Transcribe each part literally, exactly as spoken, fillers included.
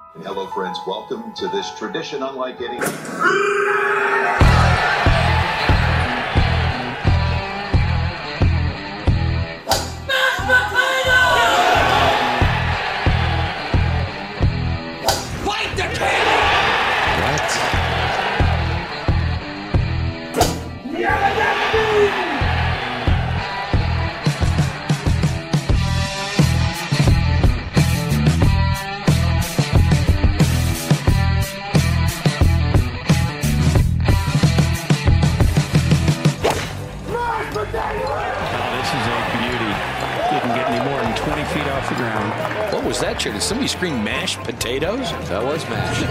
Hello, friends. Welcome to this tradition unlike any. What was that, Chair? Did somebody scream mashed potatoes? That was mashed.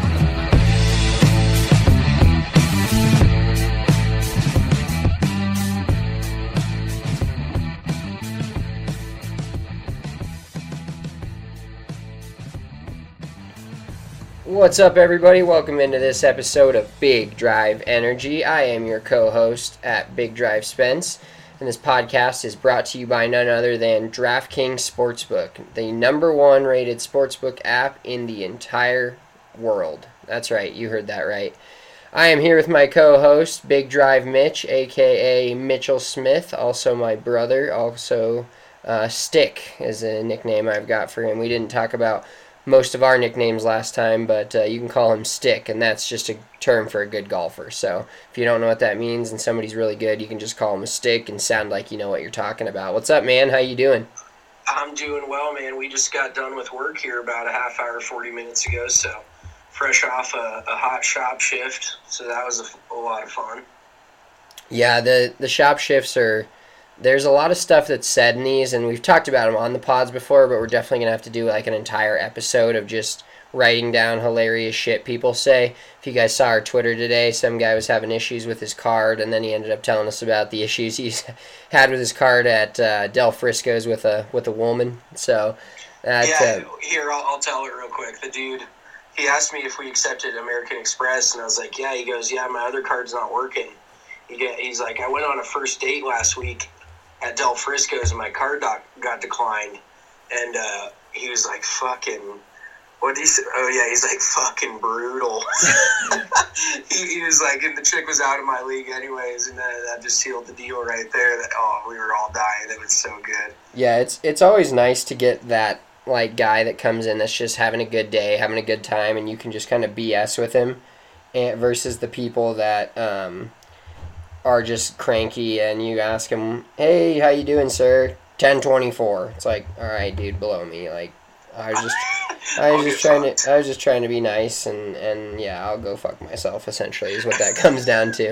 What's up, everybody? Welcome into this episode of Big Drive Energy. I am your co-host at Big Drive Spence. And this podcast is brought to you by none other than DraftKings Sportsbook, the number one rated sportsbook app in the entire world. That's right, you heard that right. I am here with my co-host, Big Drive Mitch, aka Mitchell Smith, also my brother, also uh, Stick is a nickname I've got for him. We didn't talk about most of our nicknames last time, but uh, you can call him Stick, and that's just a term for a good golfer. So if you don't know what that means and somebody's really good, you can just call him a Stick and sound like you know what you're talking about. What's up, man? How you doing? I'm doing well, man. We just got done with work here about a half hour, forty minutes ago, so fresh off a, a hot shop shift, so that was a, a lot of fun. Yeah, the, the shop shifts are... There's a lot of stuff that's said in these, and we've talked about them on the pods before, but we're definitely going to have to do like an entire episode of just writing down hilarious shit people say. If you guys saw our Twitter today, some guy was having issues with his card, and then he ended up telling us about the issues he's had with his card at uh, Del Frisco's with a with a woman. So, that, yeah, uh, here, I'll, I'll tell it real quick. The dude, he asked me if we accepted American Express, and I was like, yeah. He goes, yeah, my other card's not working. He get, he's like, I went on a first date last week at Del Frisco's, and my card doc got declined, and uh, he was like, fucking, what did he say? Oh, yeah, he's like, fucking brutal. he, he was like, and the chick was out of my league anyways, and that, that just sealed the deal right there. That oh, we were all dying. That was so good. Yeah, it's it's always nice to get that, like, guy that comes in that's just having a good day, having a good time, and you can just kind of B S with him, and versus the people that, um... are just cranky, and you ask them, hey, how you doing, sir? ten twenty-four. It's like, all right, dude, below me. Like, I was just, I was just trying to, I was just trying to be nice, and, and yeah, I'll go fuck myself. Essentially, is what that comes down to.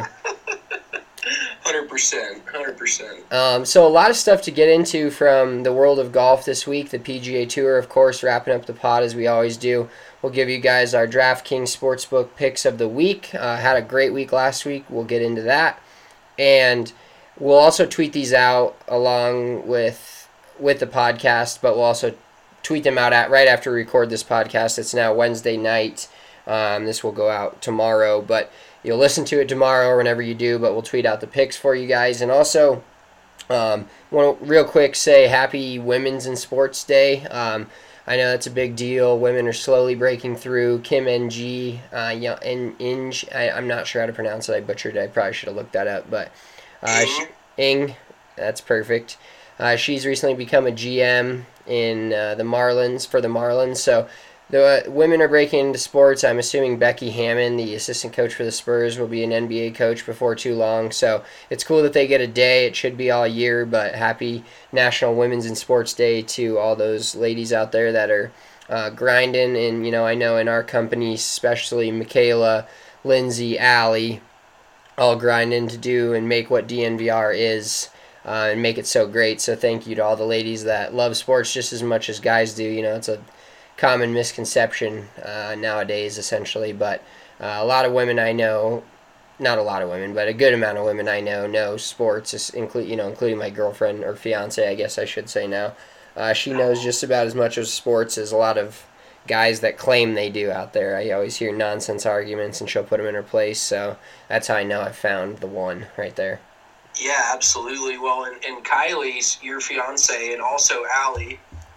Hundred percent, hundred percent. Um, so a lot of stuff to get into from the world of golf this week. The P G A Tour, of course, wrapping up the pod as we always do. We'll give you guys our DraftKings Sportsbook picks of the week. Uh, had a great week last week. We'll get into that. And we'll also tweet these out along with with the podcast, but we'll also tweet them out at right after we record this podcast. It's now Wednesday night. Um, this will go out tomorrow, but you'll listen to it tomorrow or whenever you do, but we'll tweet out the picks for you guys. And also, um, want to real quick say happy Women's in Sports Day. Um, I know that's a big deal. Women are slowly breaking through. Kim Ng, uh, in, Inge, I, I'm not sure how to pronounce it. I butchered it. I probably should have looked that up. But uh, she, Ing, that's perfect. Uh, she's recently become a G M in uh, the Marlins, for the Marlins. So the uh, women are breaking into sports. I'm assuming Becky Hammon, the assistant coach for the Spurs, will be an N B A coach before too long. So it's cool that they get a day. It should be all year, but happy National Women's in Sports Day to all those ladies out there that are uh, grinding. And, you know, I know in our company, especially Michaela, Lindsay, Allie, all grinding to do and make what D N V R is uh, and make it so great. So thank you to all the ladies that love sports just as much as guys do. You know, it's a common misconception uh, nowadays, essentially, but uh, a lot of women I know, not a lot of women, but a good amount of women I know know sports, include you know, including my girlfriend or fiance, I guess I should say now. Uh, she knows just about as much of sports as a lot of guys that claim they do out there. I always hear nonsense arguments, and she'll put them in her place, so that's how I know I found the one right there. Yeah, absolutely. Well, and, and Kylie's your fiance, and also Allie,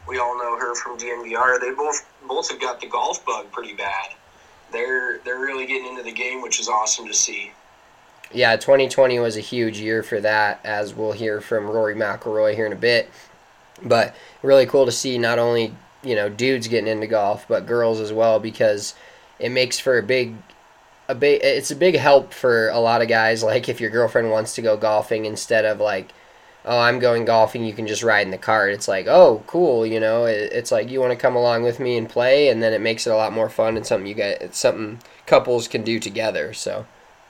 we all know her from D N V R. They both both have got the golf bug pretty bad. They're they're really getting into the game, which is awesome to see. Yeah, twenty twenty was a huge year for that, as we'll hear from Rory McIlroy here in a bit. But really cool to see not only, you know, dudes getting into golf, but girls as well, because it makes for a big, a big. It's a big help for a lot of guys. Like if your girlfriend wants to go golfing, instead of like, oh, I'm going golfing, you can just ride in the cart. It's like, oh, cool, you know. It, it's like you want to come along with me and play, and then it makes it a lot more fun and something you get. It's something couples can do together. So.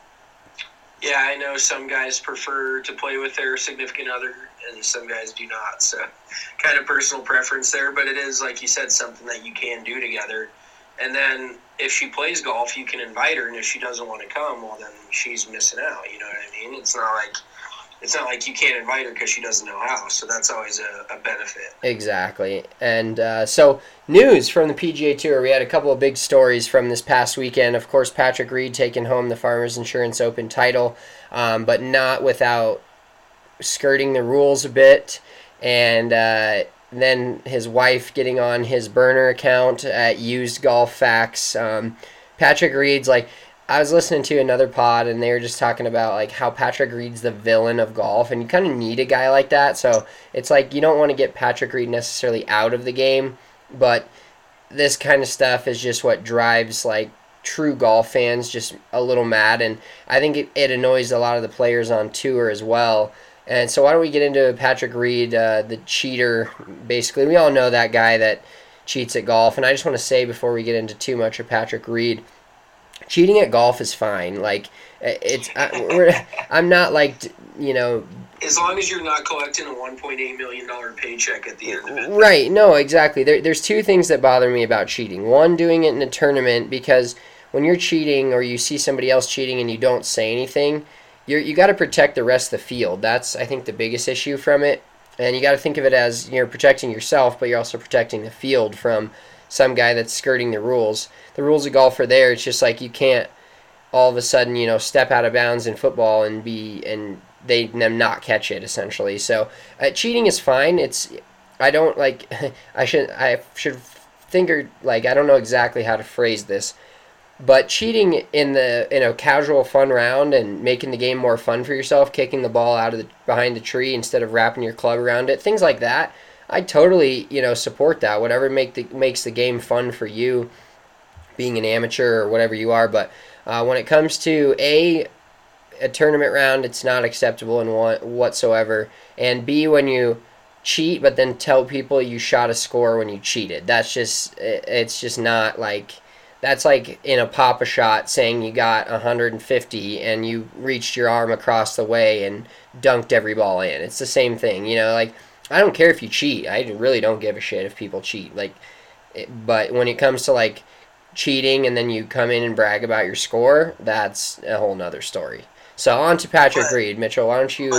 Yeah, I know some guys prefer to play with their significant other, and some guys do not. So, kind of personal preference there, but it is, like you said, something that you can do together. And then if she plays golf, you can invite her, and if she doesn't want to come, well, then she's missing out. You know what I mean? It's not like it's not like you can't invite her because she doesn't know how. So that's always a, a benefit. Exactly. And uh, so news from the P G A Tour. We had a couple of big stories from this past weekend. Of course, Patrick Reed taking home the Farmers Insurance Open title, um, but not without skirting the rules a bit. And uh, then his wife getting on his burner account at Used Golf Facts. Um, Patrick Reed's like, I was listening to another pod, and they were just talking about like how Patrick Reed's the villain of golf, and you kind of need a guy like that. So it's like you don't want to get Patrick Reed necessarily out of the game, but this kind of stuff is just what drives like true golf fans just a little mad, and I think it, it annoys a lot of the players on tour as well. And so why don't we get into Patrick Reed, uh, the cheater, basically. We all know that guy that cheats at golf, and I just want to say before we get into too much of Patrick Reed, cheating at golf is fine. Like, it's I, we're, I'm not like, you know. As long as you're not collecting a one point eight million dollars paycheck at the end of it. Right. No, exactly. There, there's two things that bother me about cheating. One, doing it in a tournament, because when you're cheating or you see somebody else cheating and you don't say anything, you're, you got to protect the rest of the field. That's, I think, the biggest issue from it. And you got to think of it as you're protecting yourself, but you're also protecting the field from some guy that's skirting the rules. The rules of golf are there. It's just like you can't all of a sudden, you know, step out of bounds in football and be and they them not catch it essentially. So uh, cheating is fine. It's I don't like I should I should think or like I don't know exactly how to phrase this, but cheating in the in a casual fun round and making the game more fun for yourself, kicking the ball out of the behind the tree instead of wrapping your club around it, things like that. I totally, you know, support that. Whatever make the makes the game fun for you, being an amateur or whatever you are. But uh, when it comes to a a tournament round, it's not acceptable in one whatsoever. And B, when you cheat, but then tell people you shot a score when you cheated, that's just it's just not like that's like in a Papa shot saying you got one hundred fifty and you reached your arm across the way and dunked every ball in. It's the same thing, you know, like. I don't care if you cheat. I really don't give a shit if people cheat. Like, it, but when it comes to like cheating and then you come in and brag about your score, that's a whole nother story. So on to Patrick but, Reed. Mitchell, why don't you?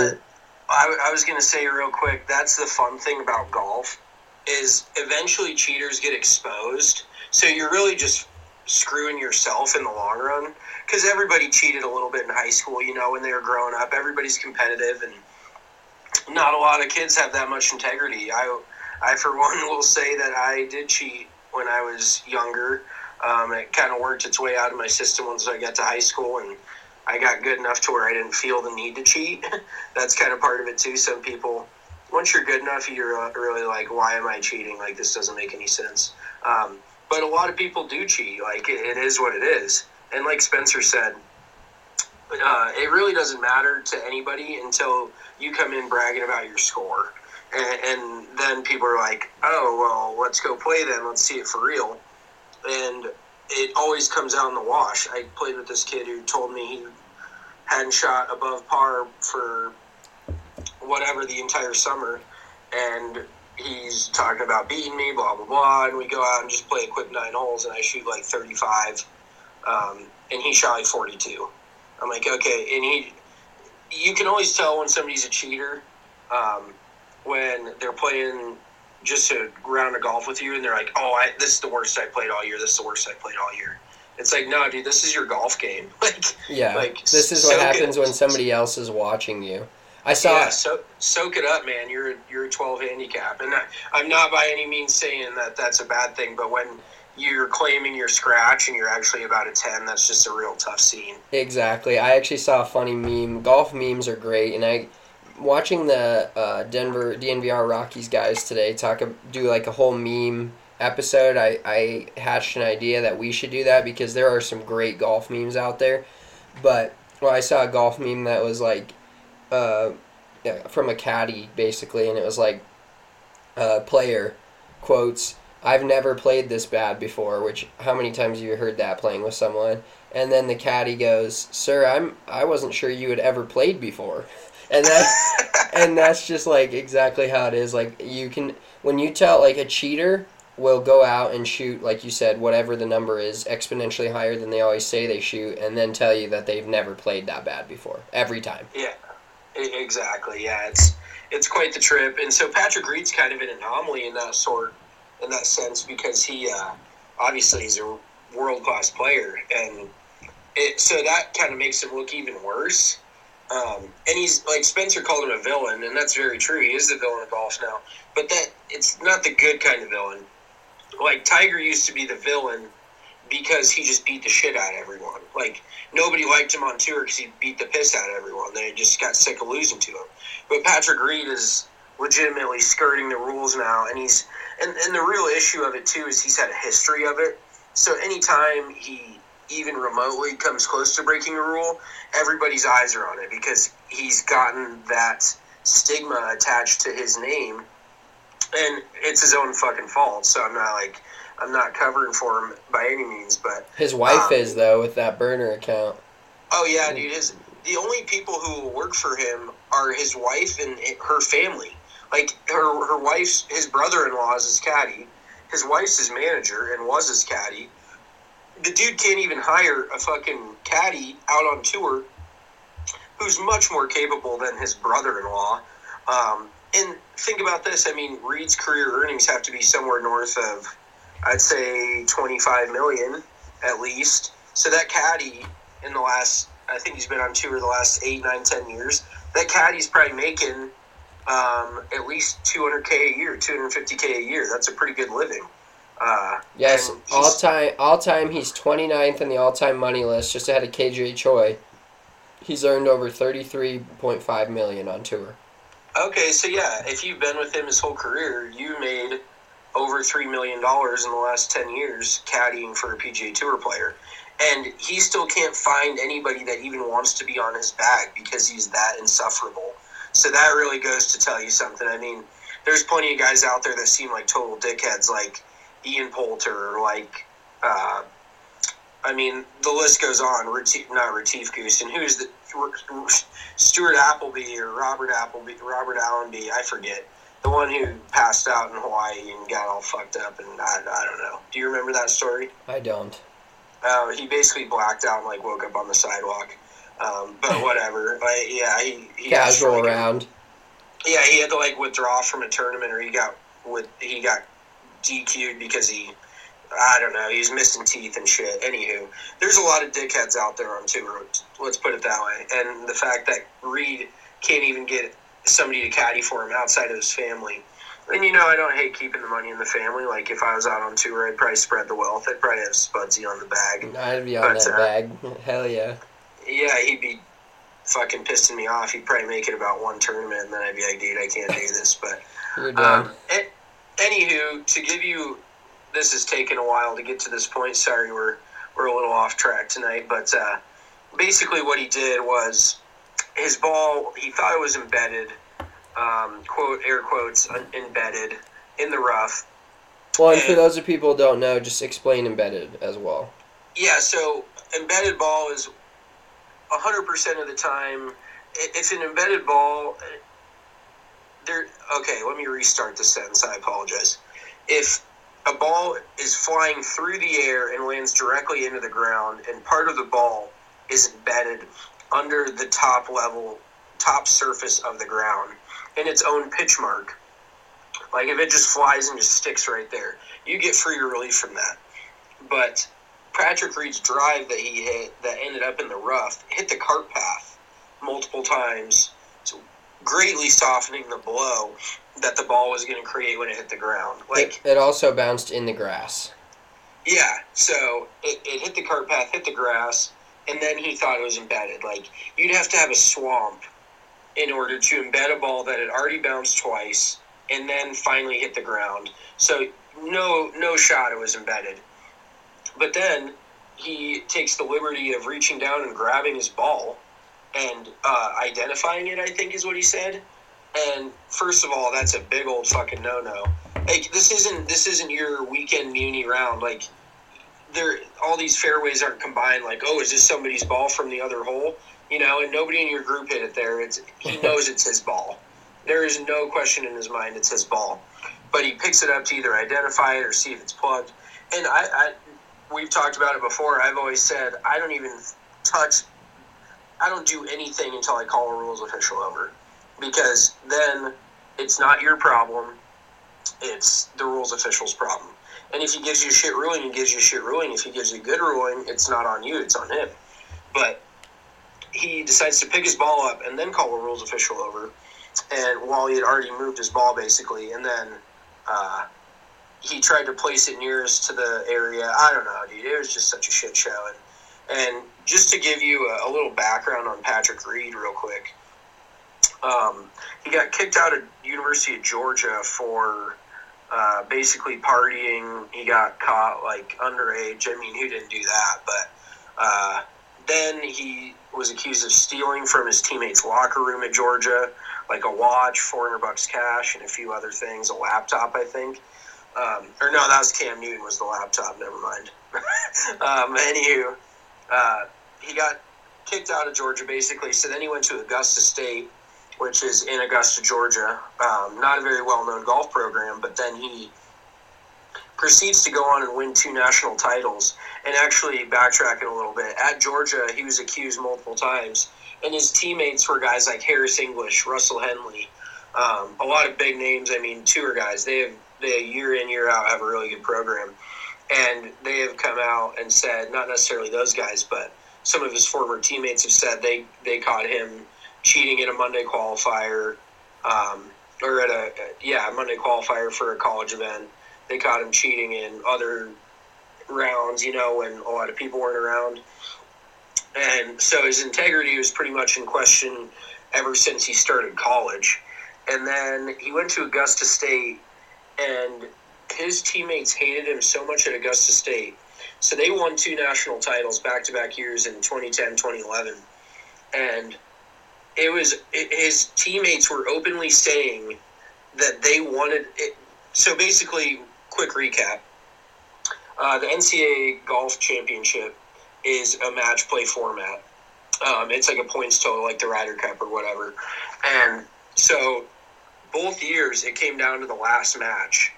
I, I was gonna say real quick. That's the fun thing about golf, is eventually cheaters get exposed. So you're really just screwing yourself in the long run, because everybody cheated a little bit in high school. You know, when they were growing up, everybody's competitive and. Not a lot of kids have that much integrity. I, I for one, will say that I did cheat when I was younger. Um, it kind of worked its way out of my system once I got to high school, and I got good enough to where I didn't feel the need to cheat. That's kind of part of it, too. Some people, once you're good enough, you're really like, why am I cheating? Like, this doesn't make any sense. Um, but a lot of people do cheat. Like, it, it is what it is. And like Spencer said, Uh, it really doesn't matter to anybody until you come in bragging about your score. And, and then people are like, oh, well, let's go play then. Let's see it for real. And it always comes out in the wash. I played with this kid who told me he hadn't shot above par for whatever the entire summer. And he's talking about beating me, blah, blah, blah. And we go out and just play a quick nine holes, and I shoot like thirty-five. Um, and he shot like forty-two. I'm like, okay, and he, you can always tell when somebody's a cheater um, when they're playing just a round of golf with you, and they're like, oh, I, this is the worst I played all year, this is the worst I played all year. It's like, no, dude, this is your golf game. like, yeah, like this is what happens when somebody else is watching you. I saw. Yeah, so soak it up, man. You're you're a twelve handicap, and I, I'm not by any means saying that that's a bad thing. But when you're claiming your scratch and you're actually about a ten, that's just a real tough scene. Exactly. I actually saw a funny meme. Golf memes are great, and I watching the uh, Denver D N V R Rockies guys today talk do like a whole meme episode. I I hatched an idea that we should do that because there are some great golf memes out there. But well, I saw a golf meme that was like. Uh, yeah, from a caddy basically, and it was like, uh, player quotes, "I've never played this bad before." Which how many times have you heard that playing with someone? And then the caddy goes, "Sir, I'm I wasn't sure you had ever played before," and that and that's just like exactly how it is. Like you can when you tell like a cheater will go out and shoot like you said whatever the number is exponentially higher than they always say they shoot, and then tell you that they've never played that bad before every time. Yeah. Exactly. Yeah, it's it's quite the trip, and so Patrick Reed's kind of an anomaly in that sort, in that sense, because he uh, obviously is a world class player, and it so that kind of makes him look even worse. Um, and he's like Spencer called him a villain, and that's very true. He is the villain of golf now, but that it's not the good kind of villain. Like Tiger used to be the villain because he just beat the shit out of everyone. Like, nobody liked him on tour because he beat the piss out of everyone. They just got sick of losing to him. But Patrick Reed is legitimately skirting the rules now, and he's and, and the real issue of it, too, is he's had a history of it. So anytime he even remotely comes close to breaking a rule, everybody's eyes are on it because he's gotten that stigma attached to his name, and it's his own fucking fault. So I'm not, like... I'm not covering for him by any means, but... His wife um, is, though, with that burner account. Oh, yeah, dude. His, the only people who will work for him are his wife and her family. Like, her her wife's... His brother-in-law is his caddy. His wife's his manager and was his caddy. The dude can't even hire a fucking caddy out on tour who's much more capable than his brother-in-law. Um, and think about this. I mean, Reed's career earnings have to be somewhere north of... I'd say twenty-five million dollars at least. So that caddy in the last, I think he's been on tour the last eight, nine, ten years. That caddy's probably making um, at least two hundred K a year, two hundred fifty K a year. That's a pretty good living. Uh, yes, all time, all time he's twenty-ninth in the all-time money list, just ahead of K J Choi. He's earned over thirty-three point five million dollars on tour. Okay, so yeah, if you've been with him his whole career, you made over three million dollars in the last ten years caddying for a P G A Tour player. And he still can't find anybody that even wants to be on his bag because he's that insufferable. So that really goes to tell you something. I mean, there's plenty of guys out there that seem like total dickheads, like Ian Poulter, or like, uh, I mean, the list goes on. Retief, not Retief Goosen. Who's the Stuart Appleby or Robert Appleby, Robert Allenby? I forget. The one who passed out in Hawaii and got all fucked up, and I, I don't know. Do you remember that story? I don't. Uh, he basically blacked out and like woke up on the sidewalk. Um, but whatever. Like, yeah, he, he casual like, round. Yeah, he had to like withdraw from a tournament, or he got with he got D Q'd because he, I don't know, he was missing teeth and shit. Anywho, there's a lot of dickheads out there on tour. Let's put it that way. And the fact that Reed can't even get somebody to caddy for him outside of his family. And, you know, I don't hate keeping the money in the family. Like, if I was out on tour, I'd probably spread the wealth. I'd probably have Spudsy on the bag. I'd be on but, that uh, bag. Hell yeah. Yeah, he'd be fucking pissing me off. He'd probably make it about one tournament, and then I'd be like, dude, I can't do this. But, You're done. um, and, anywho, to give you, this has taken a while to get to this point. Sorry, we're, we're a little off track tonight. But uh, basically what he did was his ball, he thought it was embedded, um, quote, air quotes, un- embedded in the rough. Well, and and, for those of people who don't know, just explain embedded as well. Yeah, so embedded ball is one hundred percent of the time, if an embedded ball, there. Okay, let me restart the sentence, I apologize. If a ball is flying through the air and lands directly into the ground, and part of the ball is embedded under the top level, top surface of the ground, in its own pitch mark, like if it just flies and just sticks right there, you get free relief from that. But Patrick Reed's drive that he hit that ended up in the rough hit the cart path multiple times. So greatly softening the blow that the ball was going to create when it hit the ground. Like it, it also bounced in the grass. Yeah, so it, it hit the cart path, hit the grass, and then he thought it was embedded. Like, you'd have to have a swamp in order to embed a ball that had already bounced twice and then finally hit the ground. So no no shot it was embedded. But then he takes the liberty of reaching down and grabbing his ball and uh, identifying it, I think is what he said. And first of all, that's a big old fucking no-no. Like, this isn't this isn't your weekend muni round. Like, there, all these fairways aren't combined. Like, oh, is this somebody's ball from the other hole? You know, and nobody in your group hit it there. It's he knows it's his ball. There is no question in his mind it's his ball. But he picks it up to either identify it or see if it's plugged. And I, I we've talked about it before. I've always said I don't even touch. I don't do anything until I call a rules official over, because then it's not your problem. It's the rules official's problem. And if he gives you a shit ruling, he gives you a shit ruling. If he gives you a good ruling, it's not on you, it's on him. But he decides to pick his ball up and then call a rules official over. And while he had already moved his ball, basically, and then uh, he tried to place it nearest to the area. I don't know, dude. It was just such a shit show. And, and just to give you a, a little background on Patrick Reed real quick, um, he got kicked out of University of Georgia for uh, basically partying. He got caught, like, underage. I mean, who didn't do that? But uh, then he was accused of stealing from his teammates' locker room at Georgia, like a watch, four hundred bucks cash, and a few other things, a laptop, I think. Um, or no, that was Cam Newton was the laptop, never mind. um, anywho, uh, he got kicked out of Georgia, basically, so then he went to Augusta State, which is in Augusta, Georgia. Um, not a very well-known golf program, but then he proceeds to go on and win two national titles. And actually, backtracking a little bit, at Georgia, he was accused multiple times, and his teammates were guys like Harris English, Russell Henley, um, a lot of big names. I mean, tour guys. They have they year in, year out have a really good program, and they have come out and said, not necessarily those guys, but some of his former teammates have said they they caught him cheating at a Monday qualifier, um, or at a yeah a Monday qualifier for a college event. They caught him cheating in other rounds, you know, when a lot of people weren't around. And so his integrity was pretty much in question ever since he started college. And then he went to Augusta State, and his teammates hated him so much at Augusta State. So they won two national titles back-to-back years in twenty ten, twenty eleven. And it was it, his teammates were openly saying that they wanted it. So basically, quick recap. Uh, the N C A A Golf Championship is a match play format. Um, it's like a points total, like the Ryder Cup or whatever. And so both years it came down to the last match.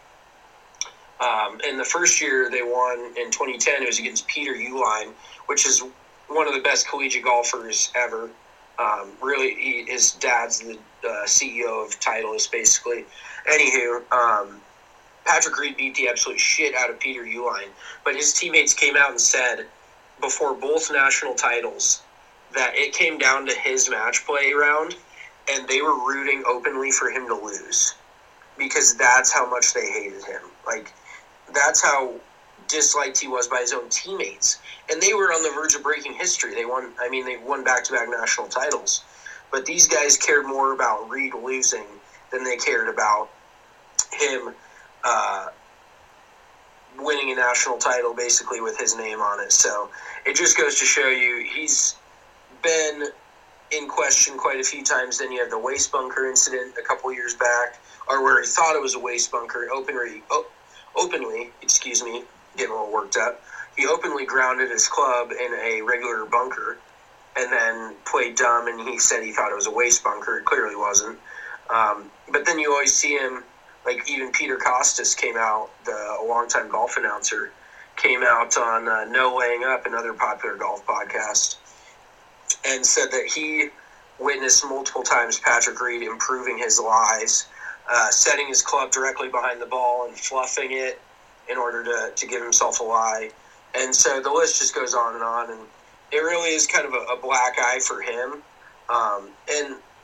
Um, and the first year they won in twenty ten, it was against Peter Uihlein, which is one of the best collegiate golfers ever. Um, really, he, his dad's the uh, C E O of Titleist, basically. Anywho, um, Patrick Reed beat the absolute shit out of Peter Uihlein, but his teammates came out and said before both national titles that it came down to his match play round, and they were rooting openly for him to lose because that's how much they hated him. Like, that's how disliked he was by his own teammates. And they were on the verge of breaking history. They won, I mean, they won back-to-back national titles. But these guys cared more about Reed losing than they cared about him uh, winning a national title, basically, with his name on it. So it just goes to show you he's been in question quite a few times. Then you have the waste bunker incident a couple years back, or where he thought it was a waste bunker, openly, oh, openly, excuse me, getting a little worked up. He openly grounded his club in a regular bunker and then played dumb, and he said he thought it was a waste bunker. It clearly wasn't. Um, but then you always see him, like even Peter Costas came out, the a longtime golf announcer, came out on uh, No Laying Up, another popular golf podcast, and said that he witnessed multiple times Patrick Reed improving his lies, uh, setting his club directly behind the ball and fluffing it in order to, to give himself a lie. And so the list just goes on and on, and it really is kind of a, a black eye for him. Um, and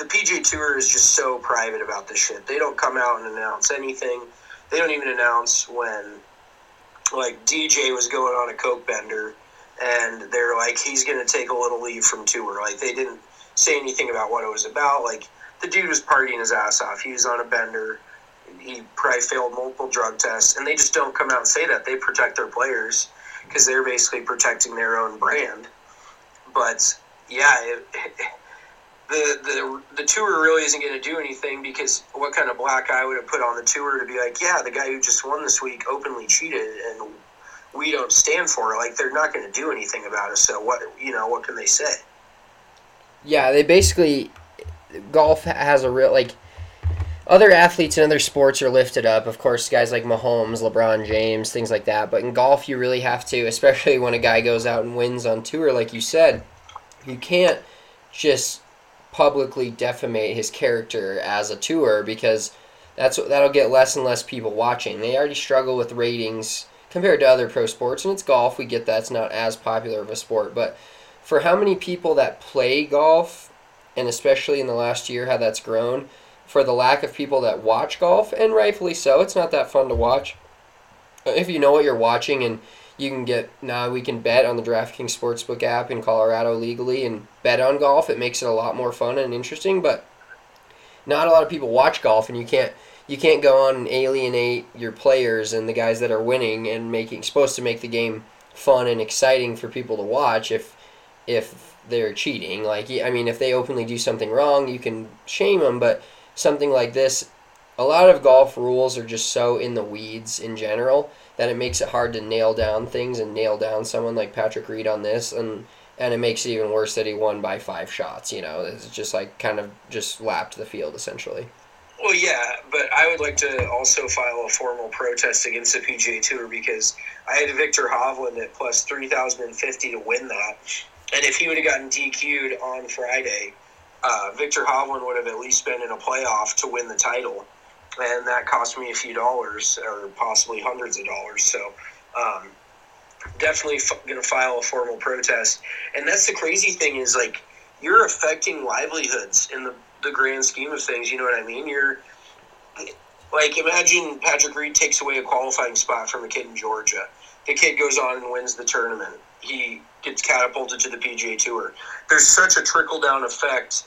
the P G A Tour is just so private about this shit. They don't come out and announce anything. They don't even announce when, like, D J was going on a coke bender, and they're like, he's going to take a little leave from tour. Like, they didn't say anything about what it was about. Like, the dude was partying his ass off. He was on a bender. He probably failed multiple drug tests, and they just don't come out and say that. They protect their players because they're basically protecting their own brand. But, yeah, it, it, the, the the tour really isn't going to do anything, because what kind of black eye would have put on the tour to be like, yeah, the guy who just won this week openly cheated, and we don't stand for it. Like, they're not going to do anything about it, so what, you know, what can they say? Yeah, they basically, golf has a real, like, other athletes in other sports are lifted up. Of course, guys like Mahomes, LeBron James, things like that. But in golf, you really have to, especially when a guy goes out and wins on tour, like you said, you can't just publicly defamate his character as a tour, because that's that'll get less and less people watching. They already struggle with ratings compared to other pro sports, and it's golf. We get that it's not as popular of a sport, but for how many people that play golf, and especially in the last year how that's grown, for the lack of people that watch golf, and rightfully so, it's not that fun to watch. If you know what you're watching, and you can get, now we can bet on the DraftKings Sportsbook app in Colorado legally and bet on golf. It makes it a lot more fun and interesting, but not a lot of people watch golf, and you can't you can't go on and alienate your players and the guys that are winning and making supposed to make the game fun and exciting for people to watch if if they're cheating. Like, I mean, if they openly do something wrong, you can shame them, but something like this, a lot of golf rules are just so in the weeds in general that it makes it hard to nail down things and nail down someone like Patrick Reed on this, and and it makes it even worse that he won by five shots. You know, it's just like kind of just lapped the field essentially. Well, yeah, but I would like to also file a formal protest against the P G A Tour, because I had Victor Hovland at plus three thousand fifty to win that, and if he would have gotten D Q'd on Friday, uh, Victor Hovland would have at least been in a playoff to win the title. And that cost me a few dollars, or possibly hundreds of dollars. So um, definitely f- going to file a formal protest. And that's the crazy thing, is, like, you're affecting livelihoods in the, the grand scheme of things. You know what I mean? You're, like, imagine Patrick Reed takes away a qualifying spot from a kid in Georgia. The kid goes on and wins the tournament. He gets catapulted to the P G A Tour. There's such a trickle-down effect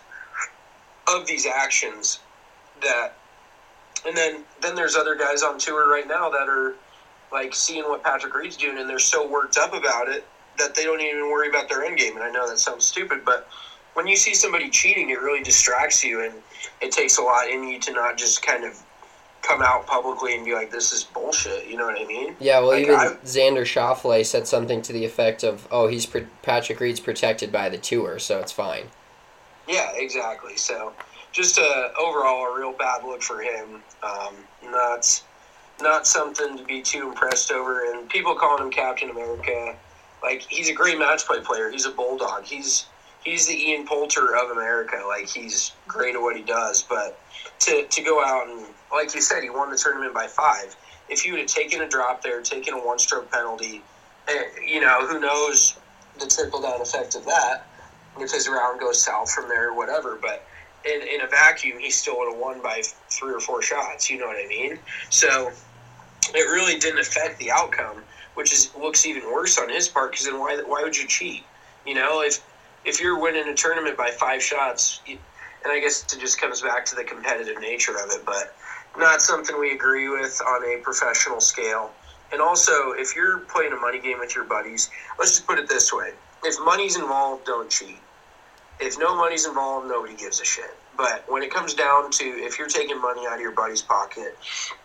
of these actions that... And then, then there's other guys on tour right now that are, like, seeing what Patrick Reed's doing, and they're so worked up about it that they don't even worry about their end game. And I know that sounds stupid, but when you see somebody cheating, it really distracts you, and it takes a lot in you to not just kind of come out publicly and be like, this is bullshit. You know what I mean? Yeah, well, like, even I, Xander Schauffele said something to the effect of, oh, he's pro- Patrick Reed's protected by the tour, so it's fine. Yeah, exactly. So... Just a, overall a real bad look for him. Um, not not something to be too impressed over. And people calling him Captain America, like, he's a great match play player. He's a bulldog. He's he's the Ian Poulter of America. Like, he's great at what he does. But to to go out and, like you said, he won the tournament by five. If you would have taken a drop there, taken a one-stroke penalty, and, you know, who knows the trickle-down effect of that, if his round goes south from there or whatever. But In, in a vacuum, he still would have won by three or four shots. You know what I mean? So it really didn't affect the outcome, which is looks even worse on his part. Because then why why would you cheat? You know, if if you're winning a tournament by five shots, you, and I guess it just comes back to the competitive nature of it, but not something we agree with on a professional scale. And also, if you're playing a money game with your buddies, let's just put it this way: if money's involved, don't cheat. If no money's involved, nobody gives a shit. But when it comes down to, if you're taking money out of your buddy's pocket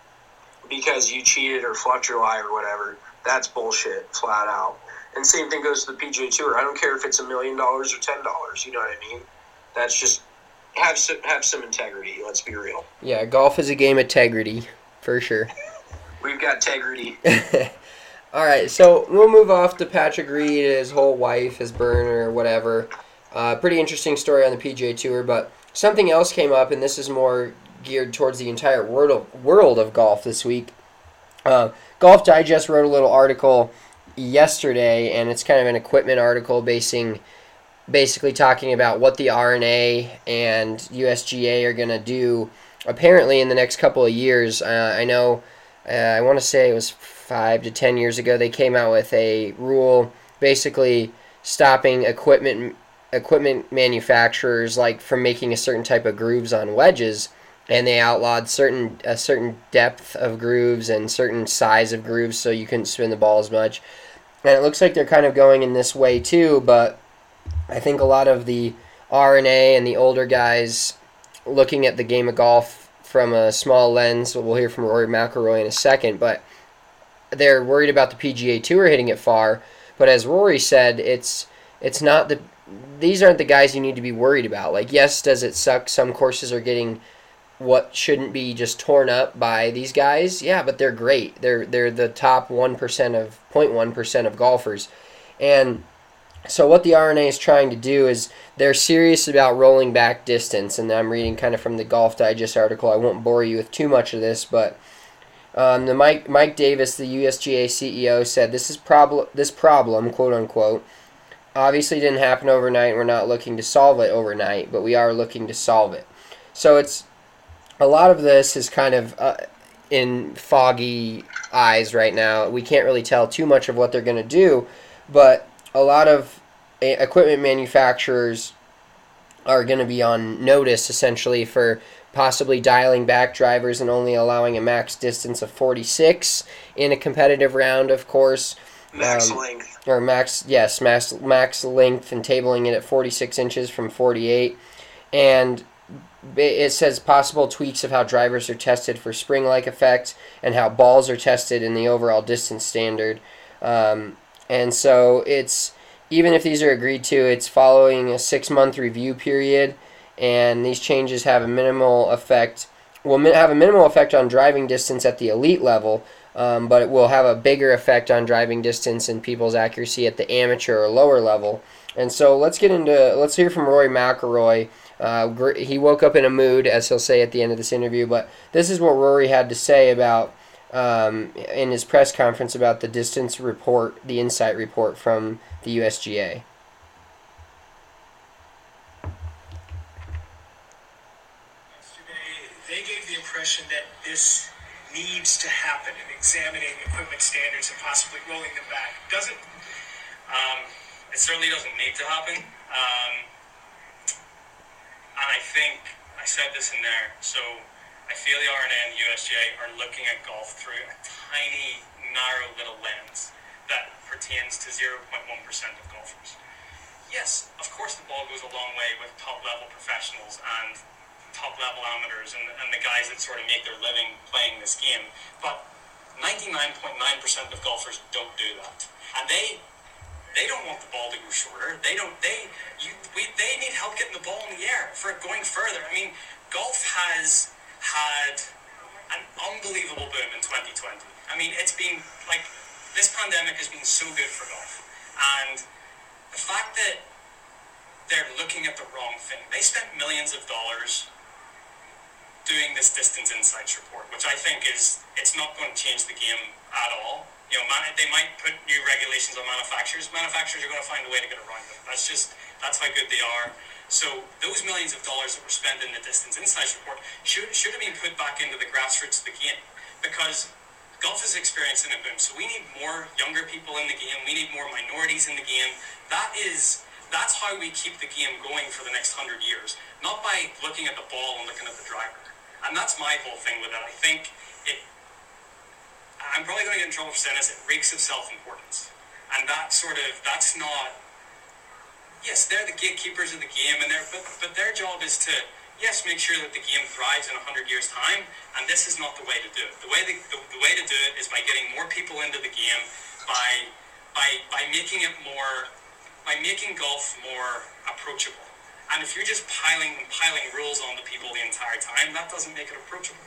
because you cheated or fluffed your lie or whatever, that's bullshit, flat out. And same thing goes to the P G A Tour. I don't care if it's a million dollars or ten dollars. You know what I mean? That's just, have some, have some integrity. Let's be real. Yeah, golf is a game of integrity, for sure. We've got integrity. All right, so we'll move off to Patrick Reed, his whole wife, his burner, whatever. Uh, pretty interesting story on the P G A Tour, but something else came up, and this is more geared towards the entire world of, world of golf this week. Uh, Golf Digest wrote a little article yesterday, and it's kind of an equipment article basing basically talking about what the R N A and U S G A are going to do apparently in the next couple of years. Uh, I know, uh, I want to say it was five to ten years ago, they came out with a rule basically stopping equipment equipment manufacturers like from making a certain type of grooves on wedges, and they outlawed certain a certain depth of grooves and certain size of grooves, so you couldn't spin the ball as much. And it looks like they're kind of going in this way too, but I think a lot of the R N A and the older guys looking at the game of golf from a small lens, we'll hear from Rory McIlroy in a second, but they're worried about the P G A Tour hitting it far. But as Rory said, it's it's not the these aren't the guys you need to be worried about. Like, yes, does it suck? Some courses are getting what shouldn't be just torn up by these guys. Yeah, but they're great. They're they're the top one percent of zero point one percent of golfers. And so what the R N A is trying to do is they're serious about rolling back distance. And I'm reading kind of from the Golf Digest article. I won't bore you with too much of this, but um, the Mike Mike Davis, the U S G A C E O, said this is problem this problem, quote unquote, obviously didn't happen overnight. We're not looking to solve it overnight, but we are looking to solve it. So it's a lot of this is kind of uh, in foggy eyes right now. We can't really tell too much of what they're going to do, but a lot of equipment manufacturers are going to be on notice essentially for possibly dialing back drivers and only allowing a max distance of forty-six in a competitive round, of course. Max um, length. Or max, yes, max, max length, and tabling it at forty-six inches from forty-eight. And it says possible tweaks of how drivers are tested for spring-like effect and how balls are tested in the overall distance standard. Um, and so it's, even if these are agreed to, it's following a six-month review period, and these changes have a minimal effect, will have a minimal effect on driving distance at the elite level, um, but it will have a bigger effect on driving distance and people's accuracy at the amateur or lower level. And so let's get into, let's hear from Rory McIlroy. Uh, he woke up in a mood, as he'll say at the end of this interview, but this is what Rory had to say about, um, in his press conference about the distance report, the insight report from the U S G A. They gave the impression that this needs to happen in examining equipment standards and possibly rolling them back. Doesn't um, it certainly doesn't need to happen. Um, and I think I said this in there. So I feel the R N A and the U S G A are looking at golf through a tiny, narrow little lens that pertains to zero point one percent of golfers. Yes, of course the ball goes a long way with top-level professionals and top-level amateurs and, and the guys that sort of make their living playing this game. But ninety-nine point nine percent of golfers don't do that. And they they don't want the ball to go shorter. They don't they you we they need help getting the ball in the air for it going further. I mean, golf has had an unbelievable boom in twenty twenty. I mean, it's been like, this pandemic has been so good for golf. And the fact that they're looking at the wrong thing. They spent millions of dollars doing this distance insights report, which I think is, it's not going to change the game at all. You know, man, they might put new regulations on manufacturers. Manufacturers are going to find a way to get around them. That's just, that's how good they are. So those millions of dollars that were spent in the distance insights report should should have been put back into the grassroots of the game, because golf is experiencing a boom. So we need more younger people in the game. We need more minorities in the game. That is, that's how we keep the game going for the next hundred years. Not by looking at the ball and looking at the driver. And that's my whole thing with it. I think it, I'm probably going to get in trouble for saying this, it reeks of self-importance. And that sort of, that's not, yes, they're the gatekeepers of the game, and they're, but, but their job is to, yes, make sure that the game thrives in one hundred years' time, and this is not the way to do it. The way, the, the, the way to do it is by getting more people into the game, by, by, by making it more, by making golf more approachable. And if you're just piling and piling rules on the people the entire time, that doesn't make it approachable.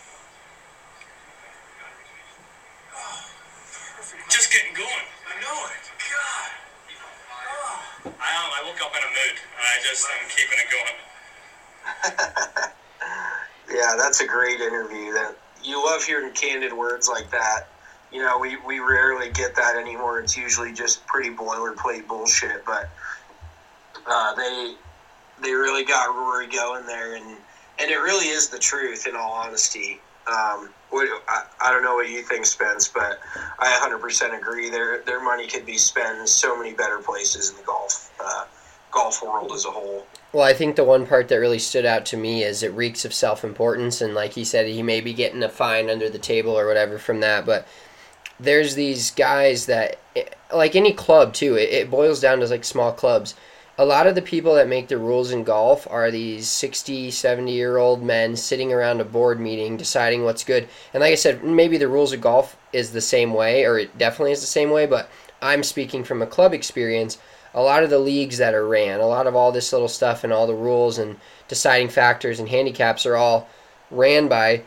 oh, perfect. Just getting going. I know it. God. Oh. I am. I woke up in a mood, and I just am keeping it going. Yeah, that's a great interview. That you love hearing candid words like that. You know, we, we rarely get that anymore. It's usually just pretty boilerplate bullshit. But Uh, they they really got Rory going there, and, and it really is the truth, in all honesty. Um, what, I, I don't know what you think, Spence, but I one hundred percent agree. Their their money could be spent in so many better places in the golf uh, golf world as a whole. Well, I think the one part that really stood out to me is it reeks of self-importance, and like he said, he may be getting a fine under the table or whatever from that, but there's these guys that, like any club too, it, it boils down to like small clubs. A lot of the people that make the rules in golf are these sixty, seventy-year-old men sitting around a board meeting deciding what's good. And like I said, maybe the rules of golf is the same way, or it definitely is the same way, but I'm speaking from a club experience. A lot of the leagues that are ran, a lot of all this little stuff and all the rules and deciding factors and handicaps are all ran by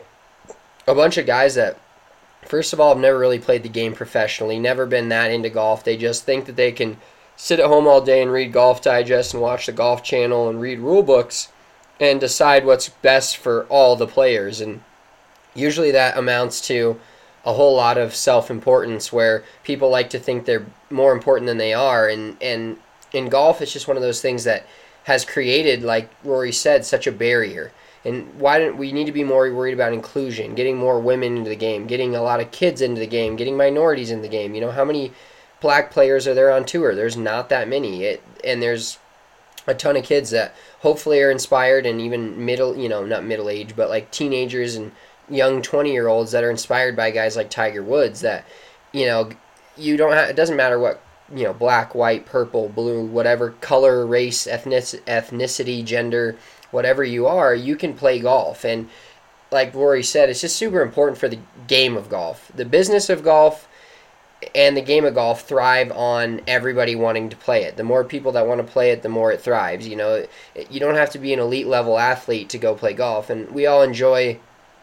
a bunch of guys that, first of all, have never really played the game professionally, never been that into golf. They just think that they can sit at home all day and read Golf Digest and watch the Golf Channel and read rule books and decide what's best for all the players. And usually that amounts to a whole lot of self-importance where people like to think they're more important than they are. And, and in golf, it's just one of those things that has created, like Rory said, such a barrier. And why don't we need to be more worried about inclusion, getting more women into the game, getting a lot of kids into the game, getting minorities in the game. You know, how many black players are there on tour? There's not that many. It, and there's a ton of kids that hopefully are inspired, and even middle, you know, not middle age, but like teenagers and young twenty-year-olds that are inspired by guys like Tiger Woods that, you know, you don't have, it doesn't matter what, you know, black, white, purple, blue, whatever color, race, ethnic, ethnicity, gender, whatever you are, you can play golf. And like Rory said, it's just super important for the game of golf. The business of golf and the game of golf thrive on everybody wanting to play it. The more people that want to play it, the more it thrives. You know, you don't have to be an elite level athlete to go play golf. And we all enjoy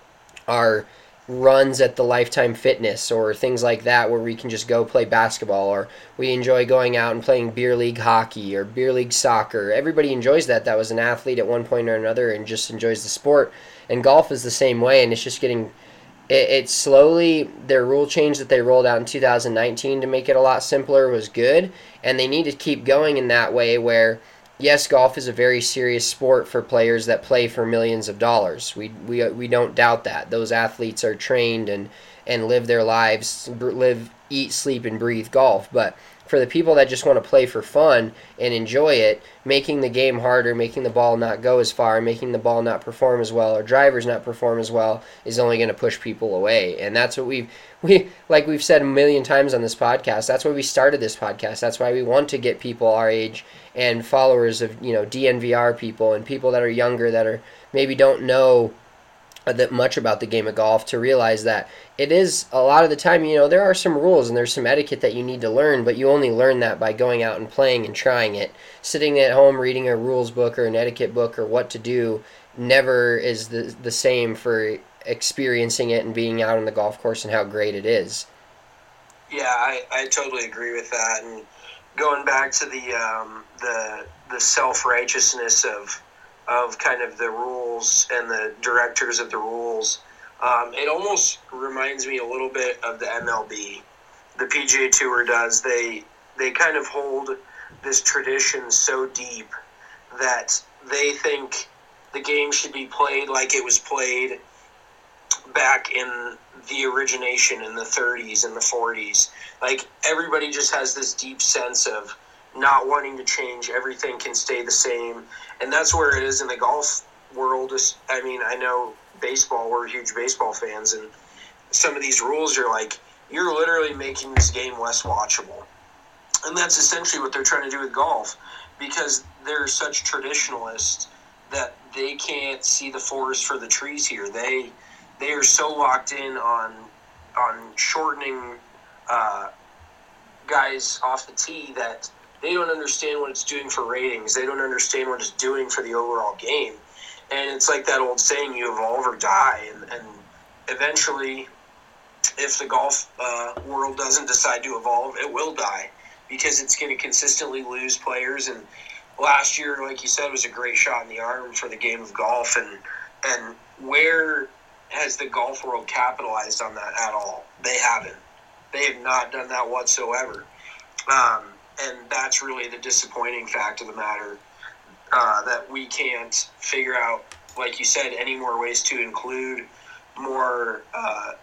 our runs at the Lifetime Fitness or things like that where we can just go play basketball, or we enjoy going out and playing beer league hockey or beer league soccer. Everybody enjoys that. That was an athlete at one point or another and just enjoys the sport. And golf is the same way, and it's just getting it, it slowly, their rule change that they rolled out in two thousand nineteen to make it a lot simpler was good, and they need to keep going in that way where, yes, golf is a very serious sport for players that play for millions of dollars. We we we don't doubt that. Those athletes are trained and, and live their lives, live, eat, sleep, and breathe golf. But for the people that just want to play for fun and enjoy it, making the game harder, making the ball not go as far, making the ball not perform as well, or drivers not perform as well, is only going to push people away. And that's what we've, we, like we've said a million times on this podcast, that's why we started this podcast. That's why we want to get people our age and followers of, you know, D N V R people and people that are younger that are maybe don't know that much about the game of golf to realize that it is a lot of the time, you know, there are some rules and there's some etiquette that you need to learn, but you only learn that by going out and playing and trying it. Sitting at home reading a rules book or an etiquette book or what to do never is the the same for experiencing it and being out on the golf course and how great it is. Yeah, I, I totally agree with that. And going back to the um, the the self-righteousness of of kind of the rules and the directors of the rules, um, it almost reminds me a little bit of the M L B. The P G A Tour does. They they kind of hold this tradition so deep that they think the game should be played like it was played back in the origination in the thirties and the forties. Like, everybody just has this deep sense of not wanting to change. Everything can stay the same. And that's where it is in the golf world. I mean, I know baseball, we're huge baseball fans, and some of these rules are like, you're literally making this game less watchable. And that's essentially what they're trying to do with golf, because they're such traditionalists that they can't see the forest for the trees here. They they are so locked in on on shortening uh, guys off the tee that they don't understand what it's doing for ratings. They don't understand what it's doing for the overall game. And it's like that old saying, you evolve or die. And, and eventually, if the golf uh, world doesn't decide to evolve, it will die, because it's going to consistently lose players. And last year, like you said, was a great shot in the arm for the game of golf. And and where has the golf world capitalized on that at all? They haven't. They have not done that whatsoever. Um, and that's really the disappointing fact of the matter, uh, that we can't figure out, like you said, any more ways to include more uh,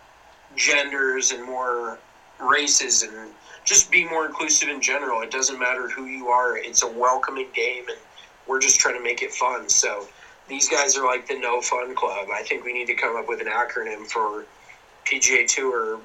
genders and more races and just be more inclusive in general. It doesn't matter who you are. It's a welcoming game, and we're just trying to make it fun. So these guys are like the No Fun Club. I think we need to come up with an acronym for P G A Tour.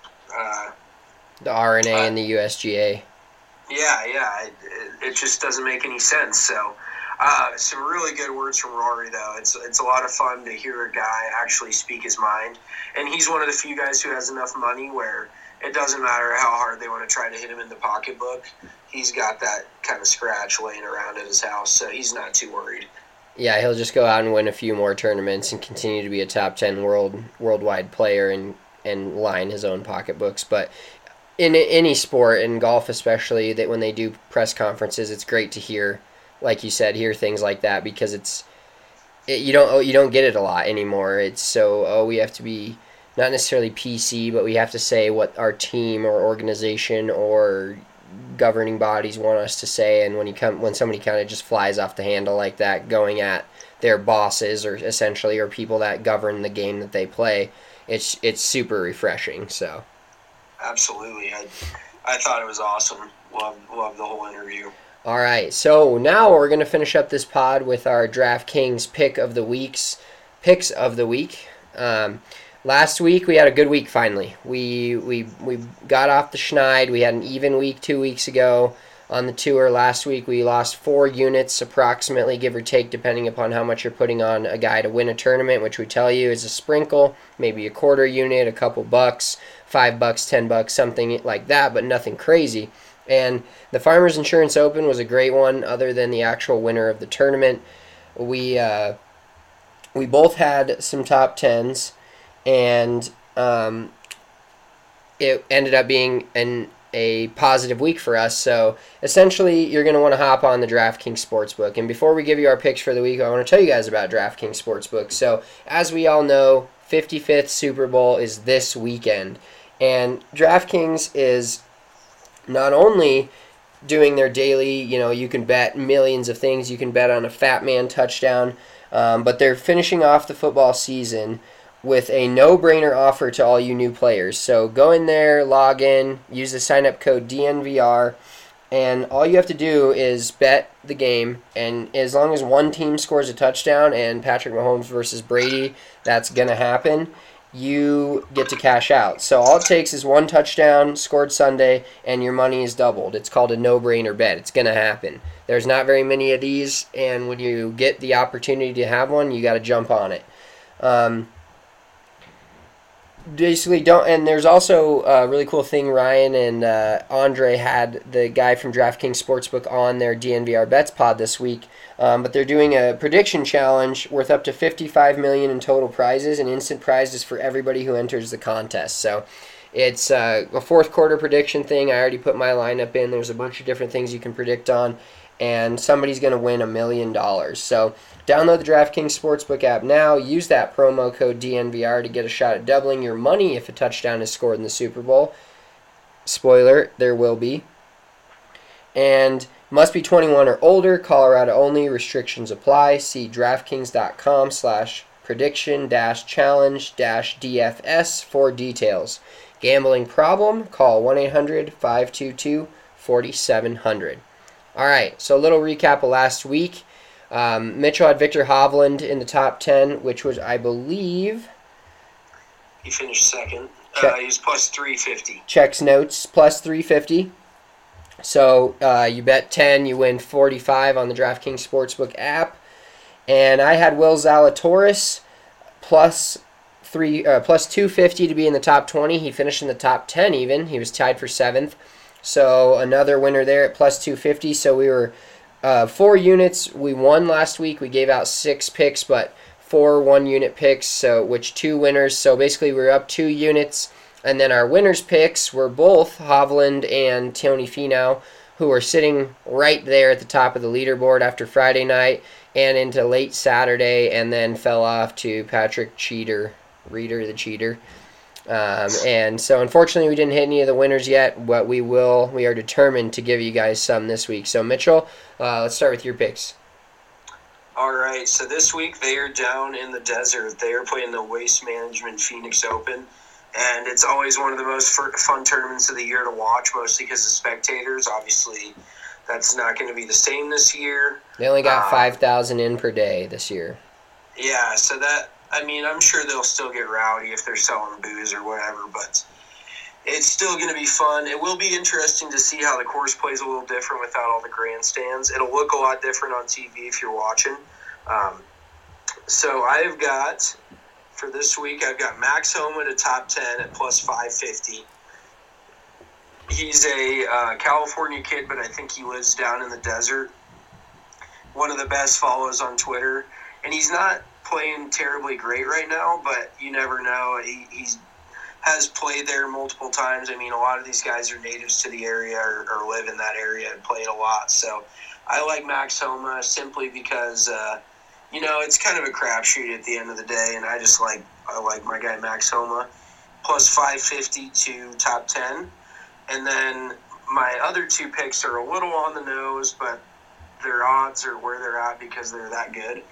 Uh, the R N A uh, and the U S G A. Yeah, yeah. It, it just doesn't make any sense. So uh, some really good words from Rory, though. It's, it's a lot of fun to hear a guy actually speak his mind. And he's one of the few guys who has enough money where it doesn't matter how hard they want to try to hit him in the pocketbook. He's got that kind of scratch laying around at his house, so he's not too worried. Yeah, he'll just go out and win a few more tournaments and continue to be a top ten world worldwide player and, and line his own pocketbooks. But in any sport, in golf especially, that when they do press conferences, it's great to hear, like you said, hear things like that, because it's it, you don't you don't get it a lot anymore. It's so, oh, we have to be not necessarily P C, but we have to say what our team or organization or governing bodies want us to say. And when you come, when somebody kind of just flies off the handle like that, going at their bosses or essentially or people that govern the game that they play, it's it's super refreshing. So, absolutely, I I thought it was awesome. Love love the whole interview. All right, so now we're gonna finish up this pod with our DraftKings pick of the weeks, picks of the week. Um, Last week we had a good week finally. We we we got off the schneid. We had an even week two weeks ago on the tour. Last week we lost four units approximately, give or take, depending upon how much you're putting on a guy to win a tournament, which we tell you is a sprinkle, maybe a quarter unit, a couple bucks, five bucks, ten bucks, something like that, but nothing crazy. And the Farmers Insurance Open was a great one, other than the actual winner of the tournament. We uh, we both had some top tens. And um, it ended up being an a positive week for us. So essentially, you're going to want to hop on the DraftKings Sportsbook. And before we give you our picks for the week, I want to tell you guys about DraftKings Sportsbook. So as we all know, fifty-fifth Super Bowl is this weekend. And DraftKings is not only doing their daily, you know, you can bet millions of things. You can bet on a Fat Man touchdown. Um, but they're finishing off the football season with a no-brainer offer to all you new players. So go in there, log in, use the sign-up code D N V R, and all you have to do is bet the game, and as long as one team scores a touchdown, and Patrick Mahomes versus Brady, that's going to happen, you get to cash out. So all it takes is one touchdown scored Sunday, and your money is doubled. It's called a no-brainer bet. It's going to happen. There's not very many of these, and when you get the opportunity to have one, you got to jump on it. Um... Basically, don't. And there's also a really cool thing. Ryan and uh, Andre had the guy from DraftKings Sportsbook on their D N V R Bets pod this week. Um, but they're doing a prediction challenge worth up to fifty-five million dollars in total prizes and instant prizes for everybody who enters the contest. So it's uh, a fourth quarter prediction thing. I already put my lineup in. There's a bunch of different things you can predict on, and somebody's going to win a million dollars. So download the DraftKings Sportsbook app now. Use that promo code D N V R to get a shot at doubling your money if a touchdown is scored in the Super Bowl. Spoiler, there will be. And must be twenty-one or older, Colorado only, restrictions apply. See DraftKings.com slash prediction dash challenge dash DFS for details. Gambling problem? Call one eight hundred five two two four seven zero zero. All right, so a little recap of last week. Um, Mitchell had Victor Hovland in the top ten, which was, I believe... He finished second. Check. Uh, he was plus three fifty. Checks notes, plus three fifty. So uh, you bet ten, you win forty-five on the DraftKings Sportsbook app. And I had Will Zalatoris plus three, uh, plus two fifty to be in the top twenty. He finished in the top ten even. He was tied for seventh. So another winner there at plus two fifty. So we were uh, four units. We won last week. We gave out six picks, but four one-unit picks, so which two winners. So basically we were up two units. And then our winners' picks were both Hovland and Tony Finau, who were sitting right there at the top of the leaderboard after Friday night and into late Saturday, and then fell off to Patrick Cheater, Reader the Cheater. Um, and so unfortunately we didn't hit any of the winners yet, but we will. We are determined to give you guys some this week. So Mitchell, uh, let's start with your picks. All right, so this week they are down in the desert. They are playing the Waste Management Phoenix Open, and it's always one of the most fun tournaments of the year to watch, mostly because of spectators. Obviously, that's not going to be the same this year. They only got um, five thousand in per day this year. Yeah, so that, I mean, I'm sure they'll still get rowdy if they're selling booze or whatever, but it's still going to be fun. It will be interesting to see how the course plays a little different without all the grandstands. It'll look a lot different on T V if you're watching. Um, so I've got, for this week, I've got Max Homa to top ten at plus five fifty. He's a uh, California kid, but I think he lives down in the desert. One of the best follows on Twitter. And he's not playing terribly great right now, but you never know. He he's, has played there multiple times. I mean, a lot of these guys are natives to the area or, or live in that area and play it a lot. So I like Max Homa simply because, uh, you know, it's kind of a crapshoot at the end of the day, and I just like I like my guy Max Homa. Plus five fifty to top ten. And then my other two picks are a little on the nose, but their odds are where they're at because they're that good.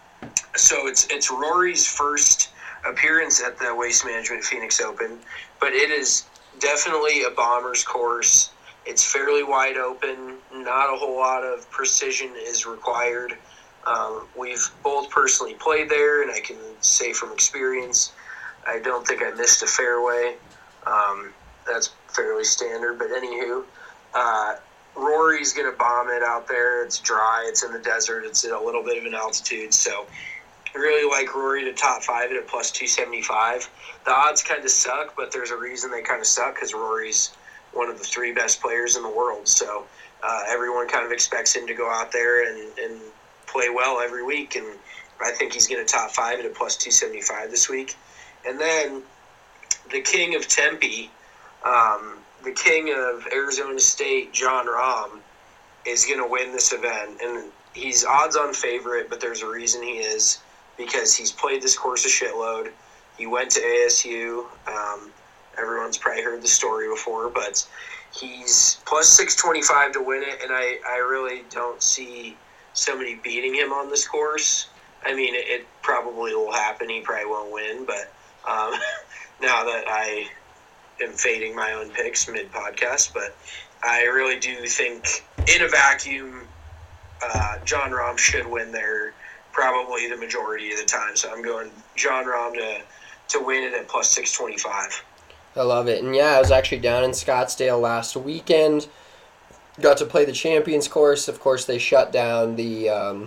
So it's it's Rory's first appearance at the Waste Management Phoenix Open, but it is definitely a bomber's course. It's fairly wide open. Not a whole lot of precision is required. Um, we've both personally played there, and I can say from experience, I don't think I missed a fairway. Um, that's fairly standard, but anywho, uh, Rory's going to bomb it out there. It's dry. It's in the desert. It's at a little bit of an altitude. So I really like Rory to top five at a plus two seventy-five. The odds kind of suck, but there's a reason they kind of suck because Rory's one of the three best players in the world. So uh, everyone kind of expects him to go out there and, and play well every week. And I think he's going to top five at a plus two seventy-five this week. And then the king of Tempe, um, the king of Arizona State, Jon Rahm, is going to win this event. And he's odds-on favorite, but there's a reason he is, because he's played this course a shitload. He went to A S U. Um, everyone's probably heard the story before, but he's plus six twenty-five to win it, and I, I really don't see somebody beating him on this course. I mean, it, it probably will happen. He probably won't win, but um, now that I am fading my own picks mid-podcast, but I really do think in a vacuum, uh, Jon Rahm should win there probably the majority of the time. So I'm going Jon Rahm to, to win it at plus six twenty-five. I love it. And yeah, I was actually down in Scottsdale last weekend. Got to play the Champions course. Of course, they shut down the um,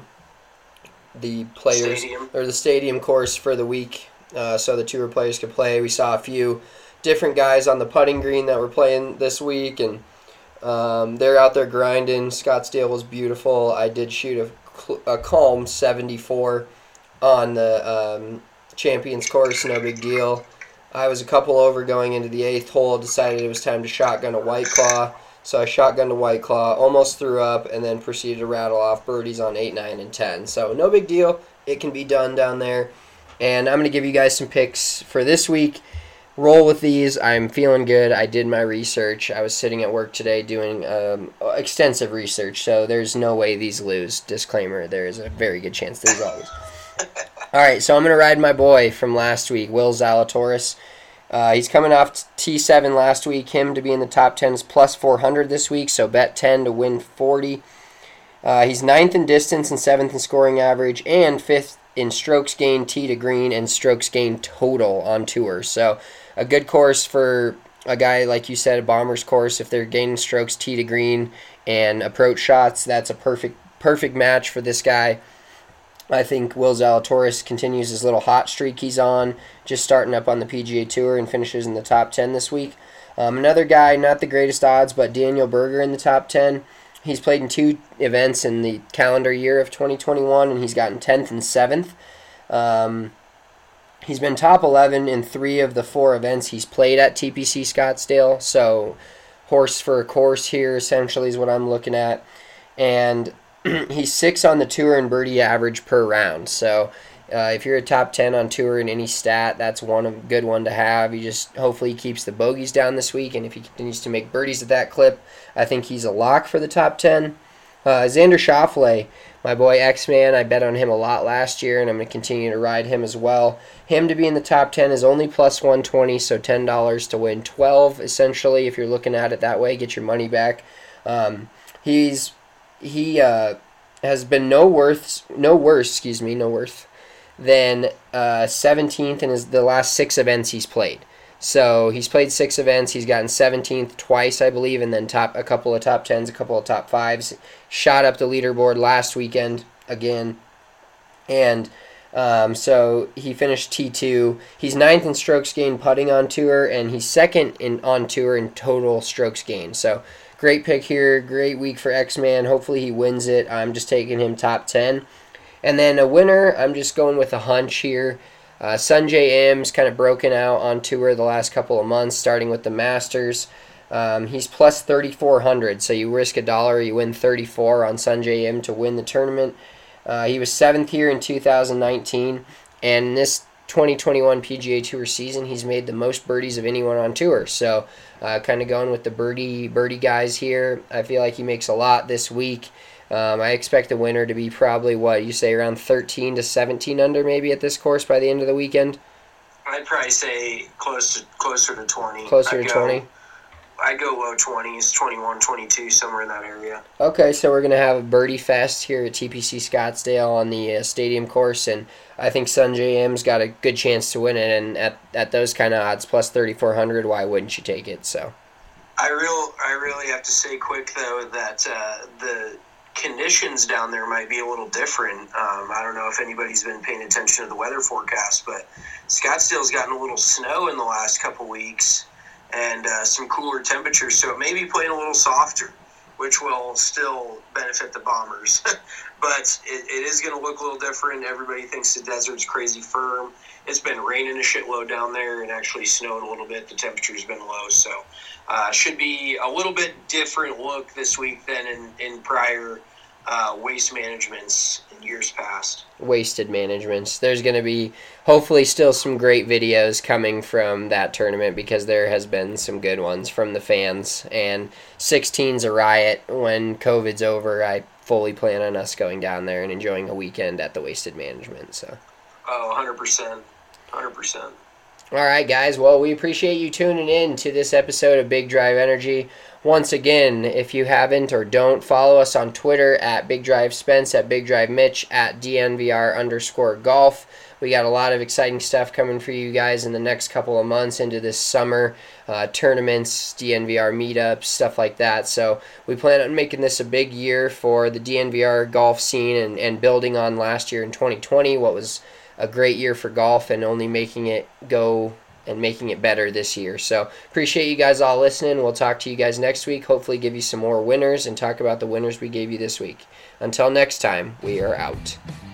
the players Stadium. or the stadium course for the week, uh, so the tour players could play. We saw a few different guys on the putting green that were playing this week, and um, they're out there grinding. Scottsdale was beautiful. I did shoot a, a calm seventy-four on the um, Champions course, no big deal. I was a couple over going into the eighth hole, decided it was time to shotgun a White Claw. So I shotgunned a White Claw, almost threw up, and then proceeded to rattle off birdies on eight, nine, and ten. So no big deal. It can be done down there. And I'm going to give you guys some picks for this week. Roll with these. I'm feeling good. I did my research. I was sitting at work today doing um, extensive research, so there's no way these lose. Disclaimer, there is a very good chance these all lose. All right, so I'm going to ride my boy from last week, Will Zalatoris. Uh, he's coming off T seven last week. Him to be in the top ten is plus four hundred this week, so bet ten to win forty. Uh, he's ninth in distance and seventh in scoring average and fifth in strokes gained tee to green and strokes gained total on tour. So a good course for a guy, like you said, a bomber's course. If they're gaining strokes tee to green and approach shots, that's a perfect perfect match for this guy. I think Will Zalatoris continues his little hot streak he's on, just starting up on the P G A Tour and finishes in the top ten this week. Um, another guy, not the greatest odds, but Daniel Berger in the top ten. He's played in two events in the calendar year of twenty twenty-one, and he's gotten tenth and seventh. Um, he's been top eleven in three of the four events he's played at T P C Scottsdale, so horse for a course here essentially is what I'm looking at. And he's six on the tour in birdie average per round. So Uh, if you're a top ten on tour in any stat, that's one a good one to have. He just hopefully he keeps the bogeys down this week, and if he continues to make birdies at that clip, I think he's a lock for the top ten. Uh, Xander Schauffele, my boy X-Man, I bet on him a lot last year, and I'm going to continue to ride him as well. Him to be in the top ten is only plus one twenty, so ten dollars to win twelve, essentially, if you're looking at it that way, get your money back. Um, he's he uh, has been no worth, no worse, excuse me, no worth. Then uh, seventeenth in his, the last six events he's played. So he's played six events. He's gotten seventeenth twice, I believe, and then top a couple of top tens, a couple of top fives. Shot up the leaderboard last weekend again. And um, so he finished T two. He's ninth in strokes gained putting on tour, and he's second in on tour in total strokes gained. So great pick here. Great week for X-Man. Hopefully he wins it. I'm just taking him top ten. And then a winner, I'm just going with a hunch here. Uh, Sungjae Im's kind of broken out on tour the last couple of months, starting with the Masters. Um, he's plus thirty-four hundred, so you risk a dollar, you win thirty-four on Sungjae Im to win the tournament. Uh, he was seventh here in two thousand nineteen, and in this twenty twenty-one P G A Tour season, he's made the most birdies of anyone on tour. So uh, kind of going with the birdie birdie guys here. I feel like he makes a lot this week. Um, I expect the winner to be probably, what, you say around thirteen to seventeen under maybe at this course by the end of the weekend? I'd probably say close to, closer to twenty. Closer I'd to go, twenty? I'd go low twenties, twenty-one, twenty-two, somewhere in that area. Okay, so we're going to have a birdie fest here at T P C Scottsdale on the uh, stadium course, and I think Sungjae Im's got a good chance to win it, and at, at those kind of odds, plus thirty-four hundred, why wouldn't you take it? So I real I really have to say quick, though, that uh, the conditions down there might be a little different. Um, I don't know if anybody's been paying attention to the weather forecast, but Scottsdale's gotten a little snow in the last couple weeks and uh, some cooler temperatures, so it may be playing a little softer, which will still benefit the Bombers. But it, it is going to look a little different. Everybody thinks the desert's crazy firm. It's been raining a shitload down there and actually snowed a little bit. The temperature's been low, so uh, should be a little bit different look this week than in, in prior uh, waste managements in years past. Wasted managements. There's going to be hopefully still some great videos coming from that tournament because there has been some good ones from the fans. And sixteen's a riot. When COVID's over, I fully plan on us going down there and enjoying a weekend at the Wasted Management. So. Oh, one hundred percent. one hundred percent. All right, guys. Well, we appreciate you tuning in to this episode of Big Drive Energy. Once again, if you haven't or don't, follow us on Twitter at Big Drive Spence, at Big Drive Mitch, at D N V R underscore golf. We got a lot of exciting stuff coming for you guys in the next couple of months into this summer. Uh, tournaments, D N V R meetups, stuff like that. So we plan on making this a big year for the D N V R golf scene and, and building on last year in twenty twenty, what was a great year for golf, and only making it go and making it better this year. So appreciate you guys all listening. We'll talk to you guys next week. Hopefully give you some more winners and talk about the winners we gave you this week. Until next time, we are out.